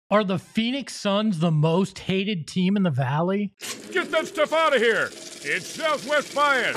Are the Phoenix Suns the most hated team in the Valley? Get that stuff out of here! It's Southwest Bias!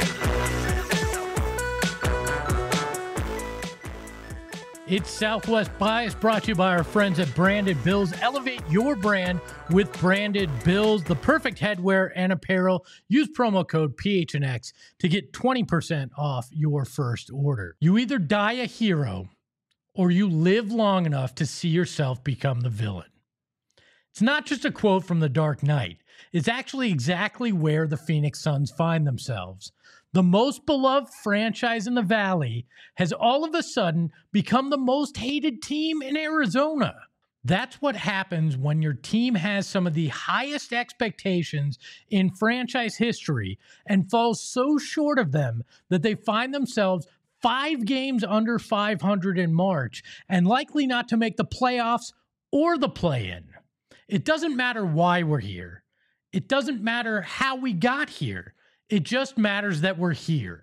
It's Southwest Bias, brought to you by our friends at Branded Bills. Elevate your brand with Branded Bills, the perfect headwear and apparel. Use promo code PHNX to get 20% off your first order. You either die a hero or you live long enough to see yourself become the villain. It's not just a quote from The Dark Knight. It's actually exactly where the Phoenix Suns find themselves. The most beloved franchise in the Valley has all of a sudden become the most hated team in Arizona. That's what happens when your team has some of the highest expectations in franchise history and falls so short of them that they find themselves 5 games under 500 in March and likely not to make the playoffs or the play-in. It doesn't matter why we're here. It doesn't matter how we got here. It just matters that we're here.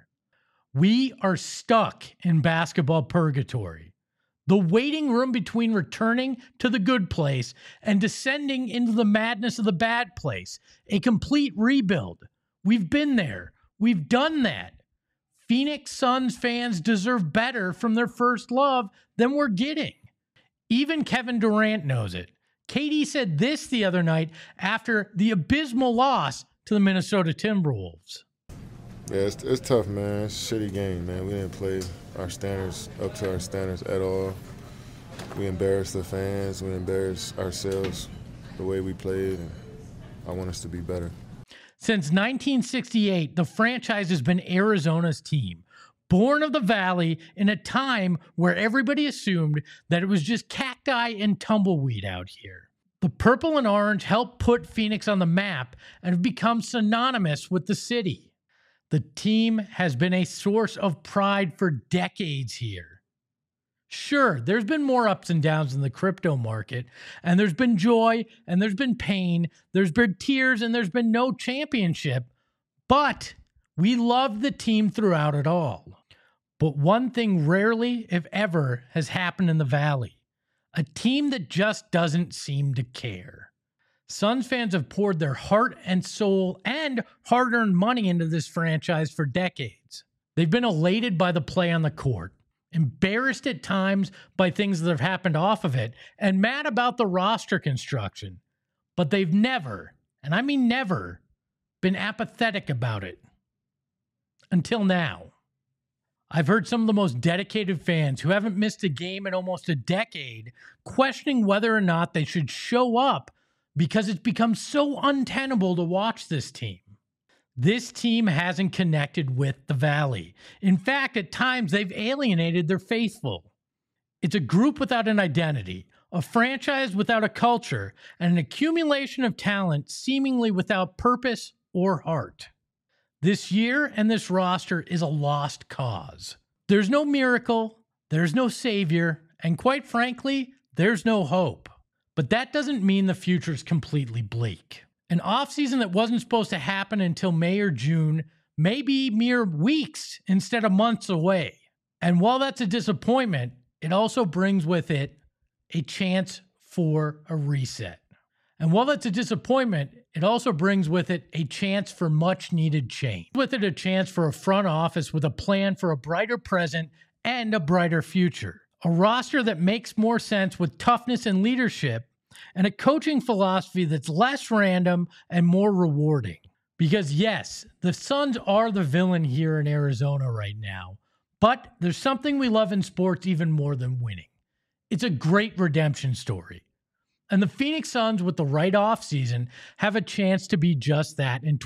We are stuck in basketball purgatory. The waiting room between returning to the good place and descending into the madness of the bad place. A complete rebuild. We've been there. We've done that. Phoenix Suns fans deserve better from their first love than we're getting. Even Kevin Durant knows it. KD said this the other night after the abysmal loss to the Minnesota Timberwolves. Yeah, it's tough, man. It's a shitty game, man. We didn't play our standards up to our standards at all. We embarrassed the fans. We embarrassed ourselves the way we played, and I want us to be better. Since 1968, the franchise has been Arizona's team, born of the Valley in a time where everybody assumed that it was just cacti and tumbleweed out here. The purple and orange helped put Phoenix on the map and have become synonymous with the city. The team has been a source of pride for decades here. Sure, there's been more ups and downs in the crypto market, and there's been joy, and there's been pain, there's been tears, and there's been no championship, but we loved the team throughout it all. But one thing rarely, if ever, has happened in the Valley. A team that just doesn't seem to care. Suns fans have poured their heart and soul and hard-earned money into this franchise for decades. They've been elated by the play on the court, embarrassed at times by things that have happened off of it, and mad about the roster construction. But they've never, and I mean never, been apathetic about it. Until now. I've heard some of the most dedicated fans who haven't missed a game in almost a decade questioning whether or not they should show up because it's become so untenable to watch this team. This team hasn't connected with the Valley. In fact, at times they've alienated their faithful. It's a group without an identity, a franchise without a culture, and an accumulation of talent seemingly without purpose or heart. This year and this roster is a lost cause. There's no miracle, there's no savior, and quite frankly, there's no hope. But that doesn't mean the future is completely bleak. An offseason that wasn't supposed to happen until May or June may be mere weeks instead of months away. And while that's a disappointment, it also brings with it a chance for a reset. And while that's a disappointment, it also brings with it a chance for much needed change. With it, a chance for a front office with a plan for a brighter present and a brighter future. A roster that makes more sense with toughness and leadership, and a coaching philosophy that's less random and more rewarding. Because yes, the Suns are the villain here in Arizona right now, but there's something we love in sports even more than winning. It's a great redemption story. And the Phoenix Suns, with the right offseason, have a chance to be just that in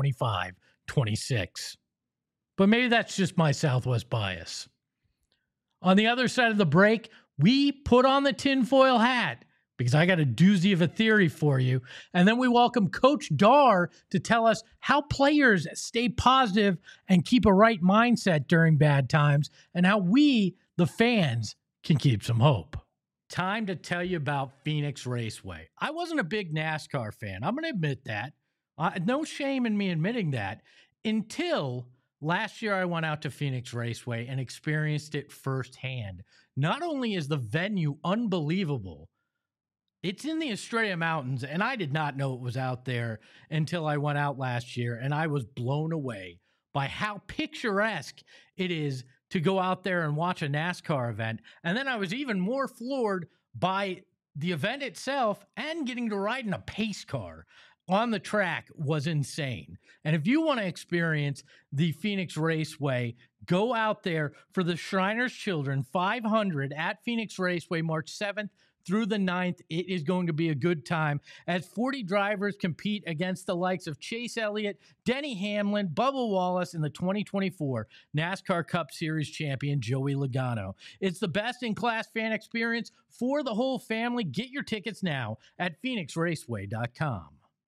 2025-26. But maybe that's just my Southwest bias. On the other side of the break, we put on the tinfoil hat because I got a doozy of a theory for you. And then we welcome Coach Dar to tell us how players stay positive and keep a right mindset during bad times, and how we, the fans, can keep some hope. Time to tell you about Phoenix Raceway. I wasn't a big NASCAR fan. I'm going to admit that. No shame in me admitting that, until last year I went out to Phoenix Raceway and experienced it firsthand. Not only is the venue unbelievable, It's in the Estrella Mountains, and I did not know it was out there until I went out last year, and I was blown away by how picturesque it is to go out there and watch a NASCAR event. And then I was even more floored by the event itself, and getting to ride in a pace car on the track was insane. And if you want to experience the Phoenix Raceway, go out there for the Shriners Children 500 at Phoenix Raceway, March 7th through the 9th. It is going to be a good time as 40 drivers compete against the likes of Chase Elliott, Denny Hamlin, Bubba Wallace, and the 2024 NASCAR Cup Series champion Joey Logano. It's the best-in-class fan experience for the whole family. Get your tickets now at phoenixraceway.com.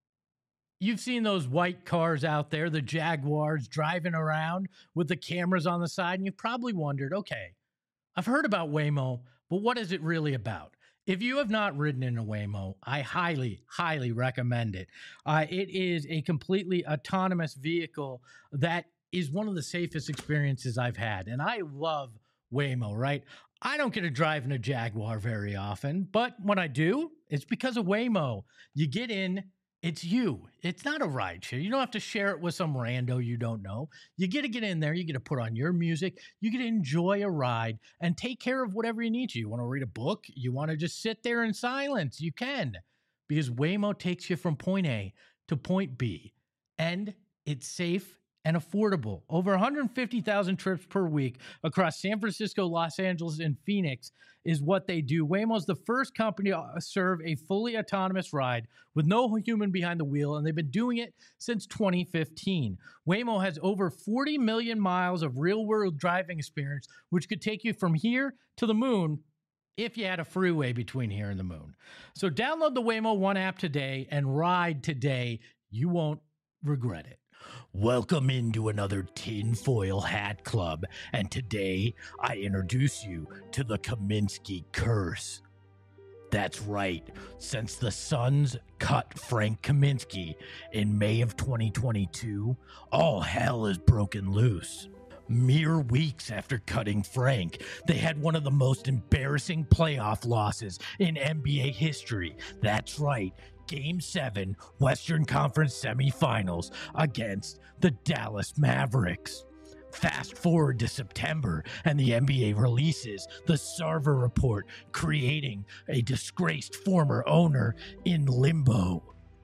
You've seen those white cars out there, the Jaguars, driving around with the cameras on the side, and you've probably wondered, okay, I've heard about Waymo, but what is it really about? If you have not ridden in a Waymo, I highly, highly recommend it. It is a completely autonomous vehicle that is one of the safest experiences I've had. And I love Waymo, right? I don't get to drive in a Jaguar very often, but when I do, it's because of Waymo. You get in, it's you. It's not a ride share. You don't have to share it with some rando you don't know. You get to get in there. You get to put on your music. You get to enjoy a ride and take care of whatever you need to. You want to read a book? You want to just sit there in silence? You can, because Waymo takes you from point A to point B, and it's safe and affordable. Over 150,000 trips per week across San Francisco, Los Angeles, and Phoenix is what they do. Waymo is the first company to serve a fully autonomous ride with no human behind the wheel, and they've been doing it since 2015. Waymo has over 40 million miles of real-world driving experience, which could take you from here to the moon if you had a freeway between here and the moon. So download the Waymo One app today and ride today. You won't regret it. Welcome into another Tinfoil Hat Club, and today I introduce you to the Kaminsky Curse. That's right, since the Suns cut Frank Kaminsky in May of 2022, all hell is broken loose. Mere weeks after cutting Frank, they had one of the most embarrassing playoff losses in NBA history. That's right, Game 7 Western Conference semifinals against the Dallas Mavericks. Fast forward to September, and the NBA releases the Sarver Report, creating a disgraced former owner in limbo.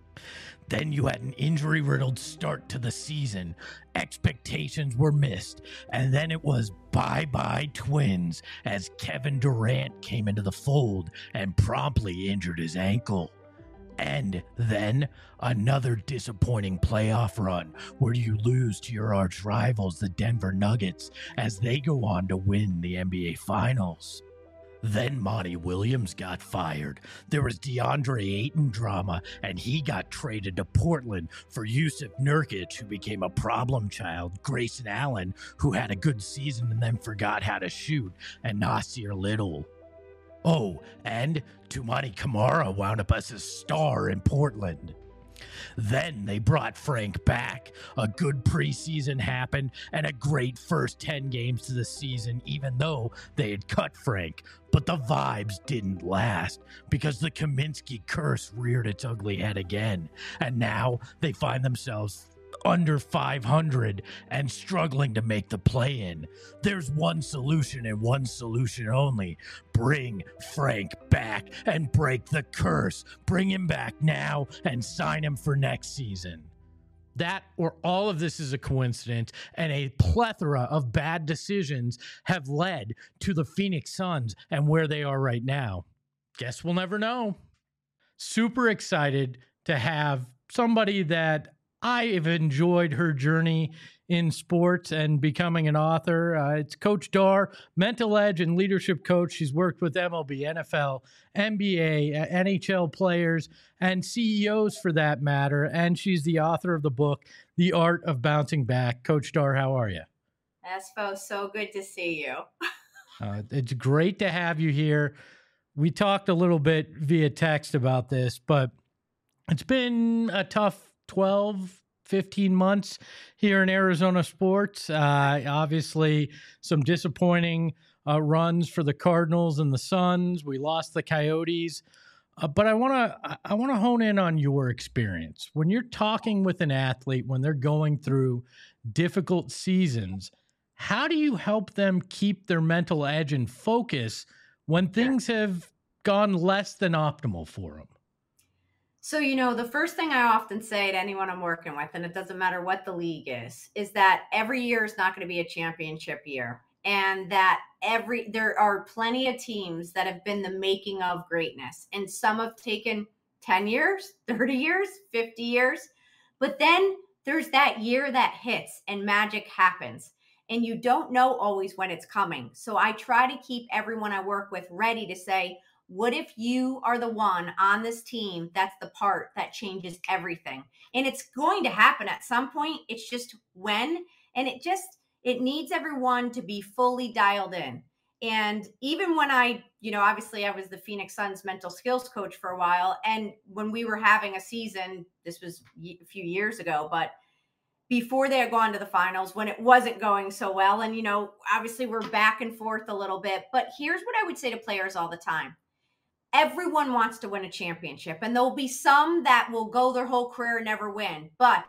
Then you had an injury-riddled start to the season. Expectations were missed, and then it was bye-bye Twins as Kevin Durant came into the fold and promptly injured his ankle. And then another disappointing playoff run where you lose to your arch rivals, the Denver Nuggets, as they go on to win the NBA Finals. Then Monty Williams got fired. There was DeAndre Ayton drama, and he got traded to Portland for Yusuf Nurkic, who became a problem child, Grayson Allen, who had a good season and then forgot how to shoot, and Nasir Little. Oh, and Toumani Camara wound up as a star in Portland. Then they brought Frank back. A good preseason happened and a great first 10 games to the season, even though they had cut Frank. But the vibes didn't last because the Kaminsky curse reared its ugly head again. And now they find themselves under 500 and struggling to make the play-in. There's one solution and one solution only. Bring Frank back and break the curse. Bring him back now and sign him for next season. That or all of this is a coincidence, and a plethora of bad decisions have led to the Phoenix Suns and where they are right now. Guess we'll never know. Super excited to have somebody that I have enjoyed her journey in sports and becoming an author. It's Coach Dar, mental edge and leadership coach. She's worked with MLB, NFL, NBA, NHL players, and CEOs for that matter. And she's the author of the book, The Art of Bouncing Back. Coach Dar, how are you? Espo, so good to see you. It's great to have you here. We talked a little bit via text about this, but it's been a tough 12, 15 months here in Arizona sports. Obviously, some disappointing runs for the Cardinals and the Suns. We lost the Coyotes. But I want to hone in on your experience when you're talking with an athlete when they're going through difficult seasons. How do you help them keep their mental edge and focus when things have gone less than optimal for them? So, the first thing I often say to anyone I'm working with, and it doesn't matter what the league is that every year is not going to be a championship year. And that there are plenty of teams that have been the making of greatness. And some have taken 10 years, 30 years, 50 years. But then there's that year that hits and magic happens. And you don't know always when it's coming. So I try to keep everyone I work with ready to say, what if you are the one on this team that's the part that changes everything? And it's going to happen at some point. It's just when. And it needs everyone to be fully dialed in. And even when obviously I was the Phoenix Suns mental skills coach for a while. And when we were having a season, this was a few years ago, but before they had gone to the finals, when it wasn't going so well. And, obviously we're back and forth a little bit. But here's what I would say to players all the time. Everyone wants to win a championship, and there'll be some that will go their whole career and never win, but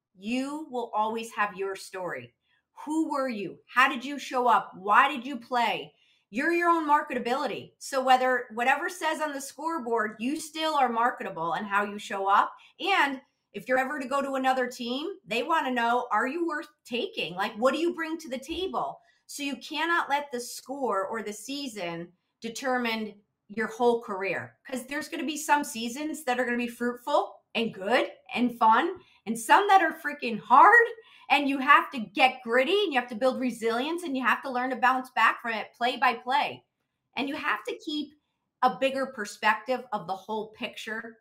you will always have your story. Who were you? How did you show up? Why did you play? You're your own marketability. So whatever says on the scoreboard, you still are marketable in how you show up. And if you're ever to go to another team, they want to know, are you worth taking? Like, what do you bring to the table? So you cannot let the score or the season determine your whole career, because there's going to be some seasons that are going to be fruitful and good and fun, and some that are freaking hard, and you have to get gritty and you have to build resilience and you have to learn to bounce back from it play by play. And you have to keep a bigger perspective of the whole picture.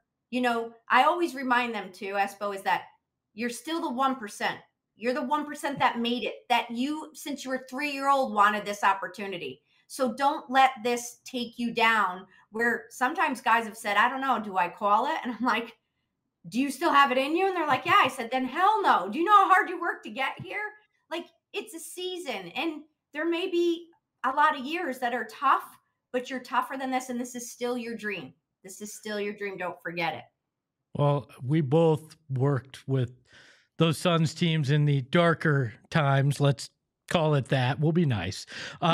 I always remind them too, Espo, is that you're still the 1%. You're the 1% that made it, that you, since you were 3-year-old, wanted this opportunity. So don't let this take you down, where sometimes guys have said, I don't know, do I call it? And I'm like, do you still have it in you? And they're like, yeah. I said, then hell no. Do you know how hard you work to get here? Like, it's a season, and there may be a lot of years that are tough, but you're tougher than this. And this is still your dream. This is still your dream. Don't forget it. Well, we both worked with those Suns teams in the darker times. Let's call it that. We'll be nice.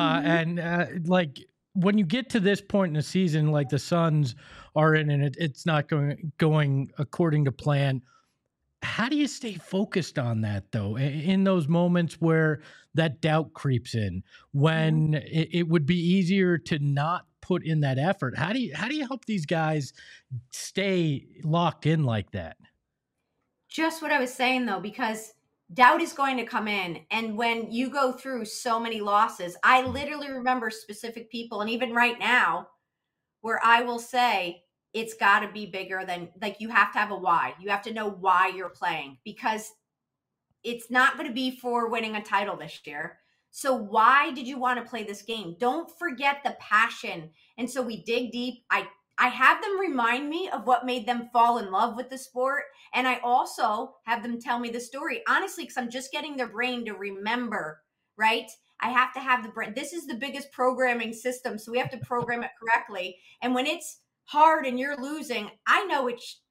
Like when you get to this point in the season, like the Suns are in, and it's not going according to plan. How do you stay focused on that though? In those moments where that doubt creeps in, when it would be easier to not put in that effort. How do you help these guys stay locked in like that? Just what I was saying though, because doubt is going to come in. And when you go through so many losses, I literally remember specific people, and even right now, where I will say, it's got to be bigger than, like, you have to have a why. You have to know why you're playing, because it's not going to be for winning a title this year. So why did you want to play this game? Don't forget the passion. And so we dig deep. I have them remind me of what made them fall in love with the sport. And I also have them tell me the story, honestly, because I'm just getting their brain to remember, right? I have to have the brain. This is the biggest programming system, so we have to program it correctly. And when it's hard and you're losing, I know it's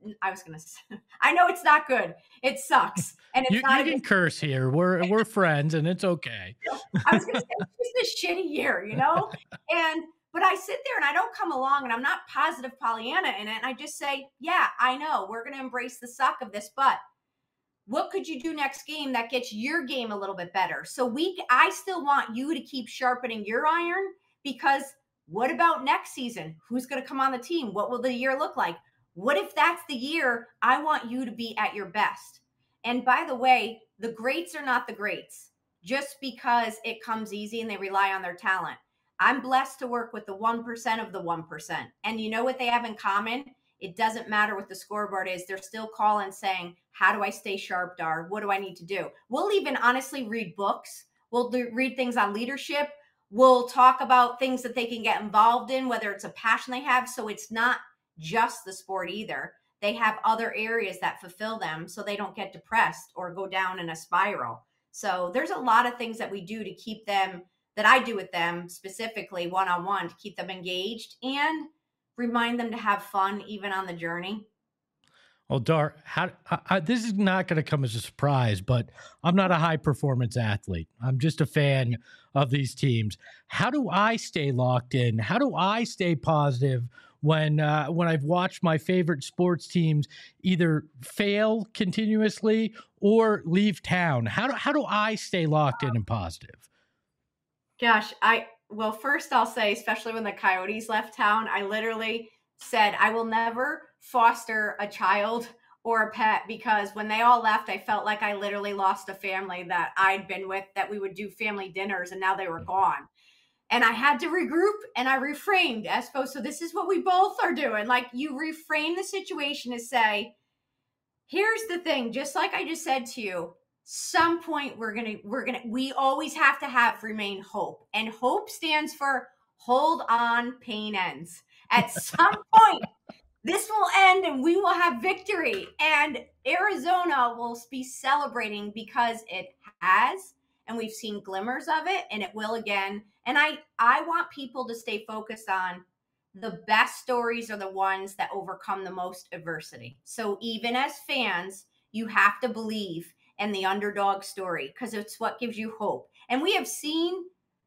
not good. It sucks. And it's you can curse here. We're friends, and it's okay. I was going to say, it's just a shitty year, But I sit there and I don't come along, and I'm not positive Pollyanna in it. And I just say, yeah, I know we're going to embrace the suck of this, but what could you do next game that gets your game a little bit better? So I still want you to keep sharpening your iron, because what about next season? Who's going to come on the team? What will the year look like? What if that's the year? I want you to be at your best. And by the way, the greats are not the greats just because it comes easy and they rely on their talent. I'm blessed to work with the 1% of the 1%. And you know what they have in common? It doesn't matter what the scoreboard is. They're still calling saying, how do I stay sharp, Dar? What do I need to do? We'll even honestly read books. We'll read things on leadership. We'll talk about things that they can get involved in, whether it's a passion they have. So it's not just the sport either. They have other areas that fulfill them so they don't get depressed or go down in a spiral. So there's a lot of things that we do to keep them, that I do with them specifically one-on-one, to keep them engaged. And remind them to have fun even on the journey. Well, Dar, this is not going to come as a surprise, but I'm not a high performance athlete. I'm just a fan of these teams. How do I stay locked in? How do I stay positive when I've watched my favorite sports teams either fail continuously or leave town? How do I stay locked in and positive? Gosh, well, first I'll say, especially when the Coyotes left town, I literally said I will never foster a child or a pet, because when they all left, I felt like I literally lost a family that I'd been with, that we would do family dinners, and now they were gone. And I had to regroup, and I reframed, Espo. So this is what we both are doing. Like, you reframe the situation to say, here's the thing, just like I just said to you, some point we always have to have remain hope. And hope stands for hold on, pain ends. At some point, this will end and we will have victory. And Arizona will be celebrating because it has, and we've seen glimmers of it, and it will again. And I want people to stay focused on the best stories are the ones that overcome the most adversity. So even as fans, you have to believe in the underdog story, because it's what gives you hope. And we have seen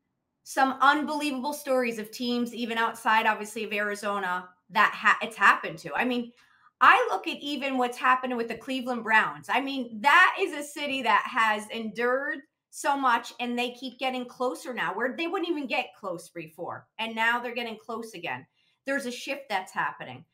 some unbelievable stories of teams, even outside, obviously, of Arizona, that it's happened to. I mean, I look at even what's happened with the Cleveland Browns. I mean, that is a city that has endured so much, and they keep getting closer now, where they wouldn't even get close before. And now they're getting close again. There's a shift that's happening.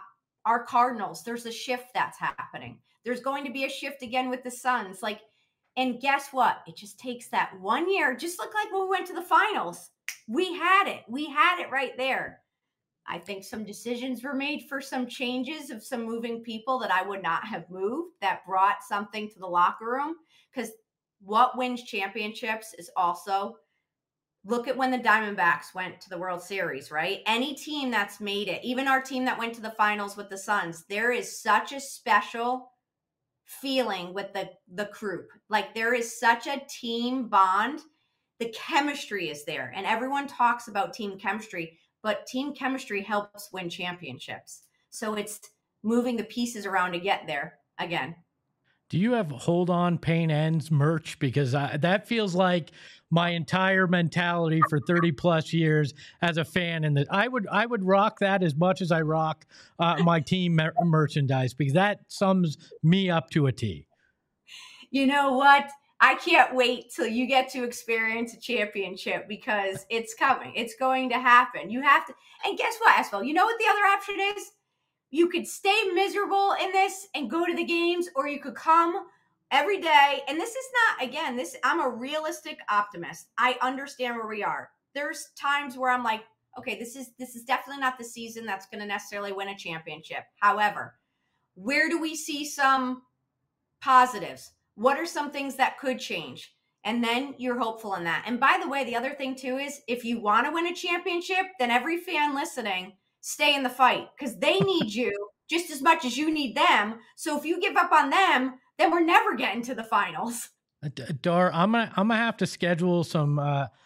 Our Cardinals, there's a shift that's happening. There's going to be a shift again with the Suns. Like, and guess what? It just takes that 1 year, just like when we went to the finals. We had it. We had it right there. I think some decisions were made for some changes of some moving people that I would not have moved, that brought something to the locker room. Because what wins championships is also, look at when the Diamondbacks went to the World Series, right? Any team that's made it, even our team that went to the finals with the Suns, there is such a special feeling with the group. Like, there is such a team bond. The chemistry is there, and everyone talks about team chemistry, but team chemistry helps win championships. So it's moving the pieces around to get there again. Do you have hold on, pain ends merch? Because that feels like my entire mentality for 30 plus years as a fan. And that I would rock that as much as I rock my team merchandise, because that sums me up to a T. You know what? I can't wait till you get to experience a championship, because it's coming. It's going to happen. You have to. And guess what, Espo? You know what the other option is? You could stay miserable in this and go to the games, or you could come every day. And this is not, again, I'm a realistic optimist. I understand where we are. There's times where I'm like, okay, this is definitely not the season that's going to necessarily win a championship. However, where do we see some positives? What are some things that could change? And then you're hopeful in that. And by the way, the other thing too is, if you want to win a championship, then every fan listening, stay in the fight, because they need you just as much as you need them. So if you give up on them, then we're never getting to the finals. Dar, I'm gonna have to schedule some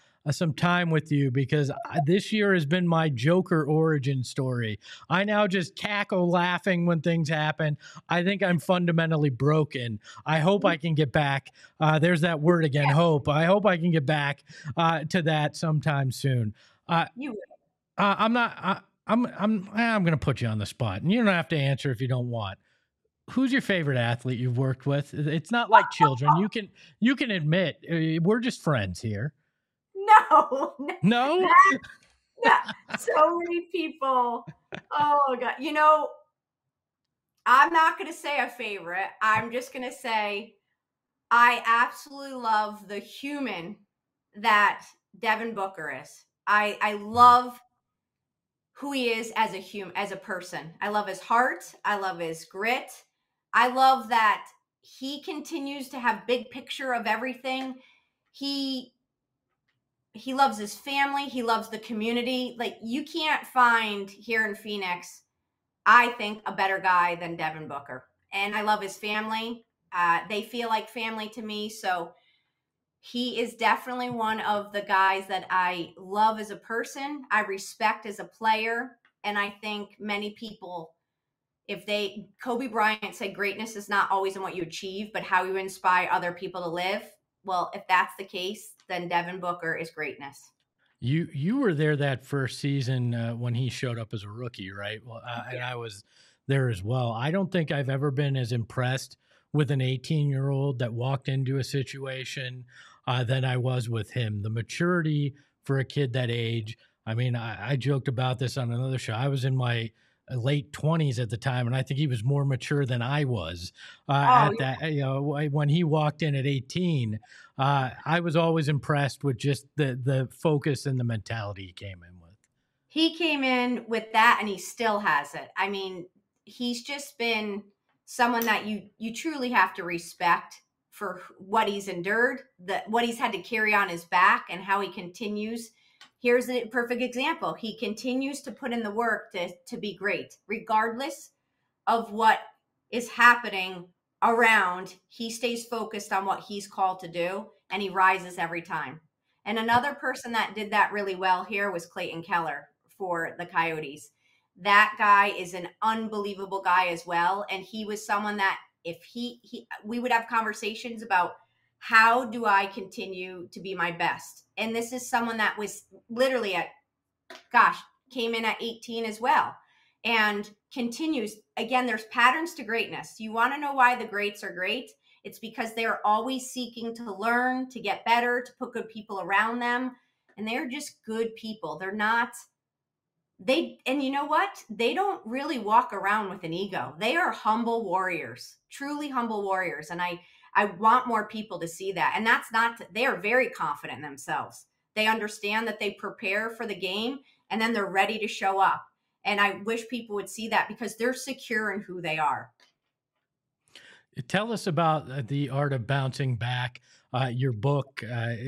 time with you, because this year has been my Joker origin story. I now just cackle laughing when things happen. I think I'm fundamentally broken. I hope I can get back. There's that word again, hope. I hope I can get back to that sometime soon. You will. I'm going to put you on the spot, and you don't have to answer if you don't want. Who's your favorite athlete you've worked with? It's not like children. You can admit we're just friends here. No. So many people. Oh God. You know, I'm not going to say a favorite. I'm just going to say I absolutely love the human that Devin Booker is. I love who he is as a human, as a person. I love his heart. I love his grit. I love that he continues to have big picture of everything. He loves his family. He loves the community. Like, you can't find here in Phoenix, I think, a better guy than Devin Booker. And I love his family. They feel like family to me. So he is definitely one of the guys that I love as a person, I respect as a player, And I think many people, Kobe Bryant said greatness is not always in what you achieve, but how you inspire other people to live. Well, if that's the case, then Devin Booker is greatness. You were there that first season when he showed up as a rookie, right? Well, and I was there as well. I don't think I've ever been as impressed with an 18-year-old that walked into a situation than I was with him. The maturity for a kid that age. I mean, I joked about this on another show. I was in my late 20s at the time, and I think he was more mature than I was at that. You know, when he walked in at 18, I was always impressed with just the focus and the mentality he came in with. He came in with that, and he still has it. I mean, he's just been someone that you truly have to respect for what he's endured, what he's had to carry on his back, and how he continues. Here's a perfect example. He continues to put in the work to be great, regardless of what is happening around. He stays focused on what he's called to do, and he rises every time. And another person that did that really well here was Clayton Keller for the Coyotes. That guy is an unbelievable guy as well. And he was someone that if we would have conversations about, how do I continue to be my best? And this is someone that was literally came in at 18 as well and continues. Again, there's patterns to greatness. You want to know why the greats are great? It's because they're always seeking to learn, to get better, to put good people around them. And they're just good people. And you know what? They don't really walk around with an ego. They are humble warriors, truly humble warriors. And I want more people to see that. And they are very confident in themselves. They understand that they prepare for the game and then they're ready to show up. And I wish people would see that because they're secure in who they are. Tell us about The Art of Bouncing Back, your book.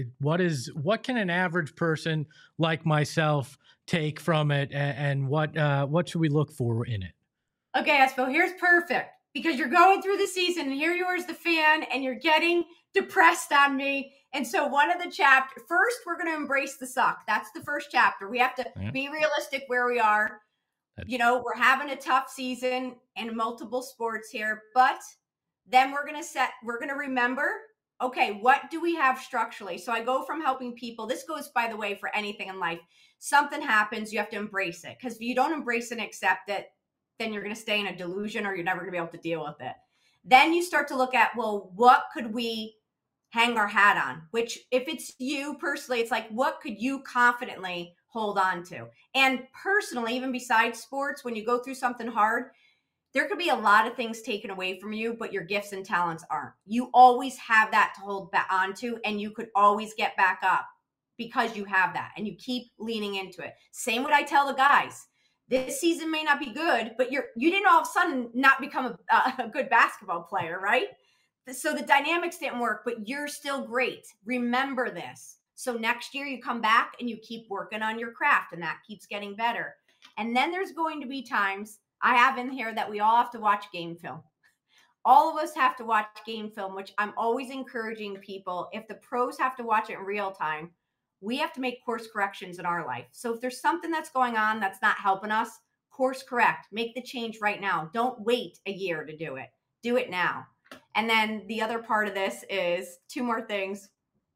What can an average person like myself take from it, and what should we look for in it? Okay, Espo, here's perfect. Because you're going through the season and here you are as the fan and you're getting depressed on me. And so one of the chapters, first, we're going to embrace the suck. That's the first chapter. We have to be realistic where we are. We're having a tough season in multiple sports here, but then we're going to remember, okay, what do we have structurally? So I go from helping people. This goes, by the way, for anything in life. Something happens, you have to embrace it. Because if you don't embrace and accept it, then you're going to stay in a delusion or you're never going to be able to deal with it. Then you start to look at, well, what could we hang our hat on? Which, if it's you personally, it's like, what could you confidently hold on to? And personally, even besides sports, when you go through something hard, there could be a lot of things taken away from you, but your gifts and talents aren't. You always have that to hold back onto, and you could always get back up because you have that and you keep leaning into it. Same what I tell the guys. This season may not be good, but you didn't all of a sudden not become a good basketball player, right? So the dynamics didn't work, but you're still great. Remember this. So next year you come back and you keep working on your craft, and that keeps getting better. And then there's going to be times I have in here that we all have to watch game film. All of us have to watch game film, which I'm always encouraging people. If the pros have to watch it in real time, we have to make course corrections in our life. So if there's something that's going on that's not helping us, course correct, make the change right now. Don't wait a year to do it. Do it now. And then the other part of this is 2 more things.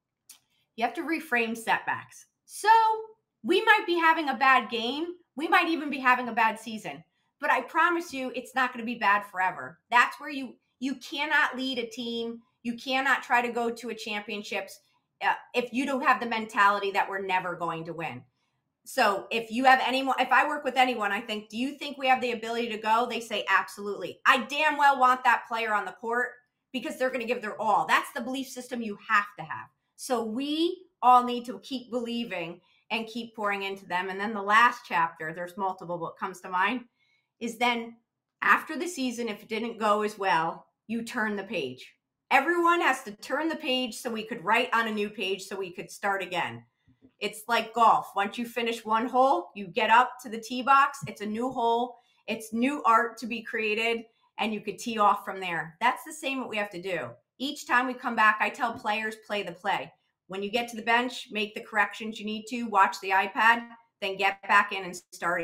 You have to reframe setbacks. So we might be having a bad game. We might even be having a bad season, but I promise you it's not going to be bad forever. That's where you cannot lead a team. You cannot try to go to a championships if you don't have the mentality that we're never going to win. So if I work with anyone, I think, do you think we have the ability to go? They say, absolutely. I damn well want that player on the court because they're going to give their all. That's the belief system you have to have. So we all need to keep believing and keep pouring into them. And then the last chapter, there's multiple, what comes to mind is then after the season, if it didn't go as well, you turn the page. Everyone has to turn the page so we could write on a new page so we could start again. It's like golf. Once you finish one hole, you get up to the tee box. It's a new hole. It's new art to be created, and you could tee off from there. That's the same what we have to do. Each time we come back, I tell players, play the play. When you get to the bench, make the corrections you need to, watch the iPad, then get back in and start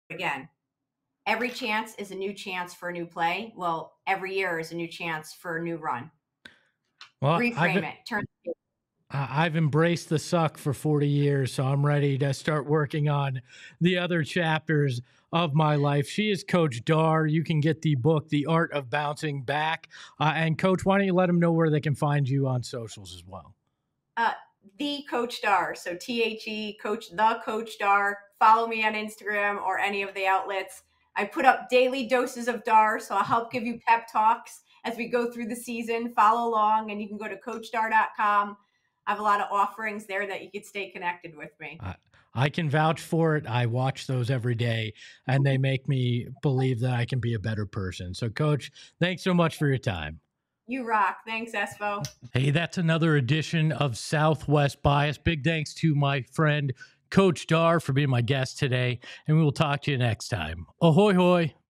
again, every chance is a new chance for a new play. Well, every year is a new chance for a new run. Well, Reframe it. Turn. I've embraced the suck for 40 years, so I'm ready to start working on the other chapters of my life. She is Coach Dar. You can get the book, The Art of Bouncing Back. And Coach, why don't you let them know where they can find you on socials as well? The Coach Dar. So THE Coach, the Coach Dar. Follow me on Instagram or any of the outlets. I put up daily doses of Dar, so I'll help give you pep talks as we go through the season. Follow along, and you can go to CoachDar.com. I have a lot of offerings there that you could stay connected with me. I can vouch for it. I watch those every day, and they make me believe that I can be a better person. So, Coach, thanks so much for your time. You rock. Thanks, Espo. Hey, that's another edition of Southwest Bias. Big thanks to my friend, Coach Dar, for being my guest today, and we will talk to you next time. Ahoy, hoy.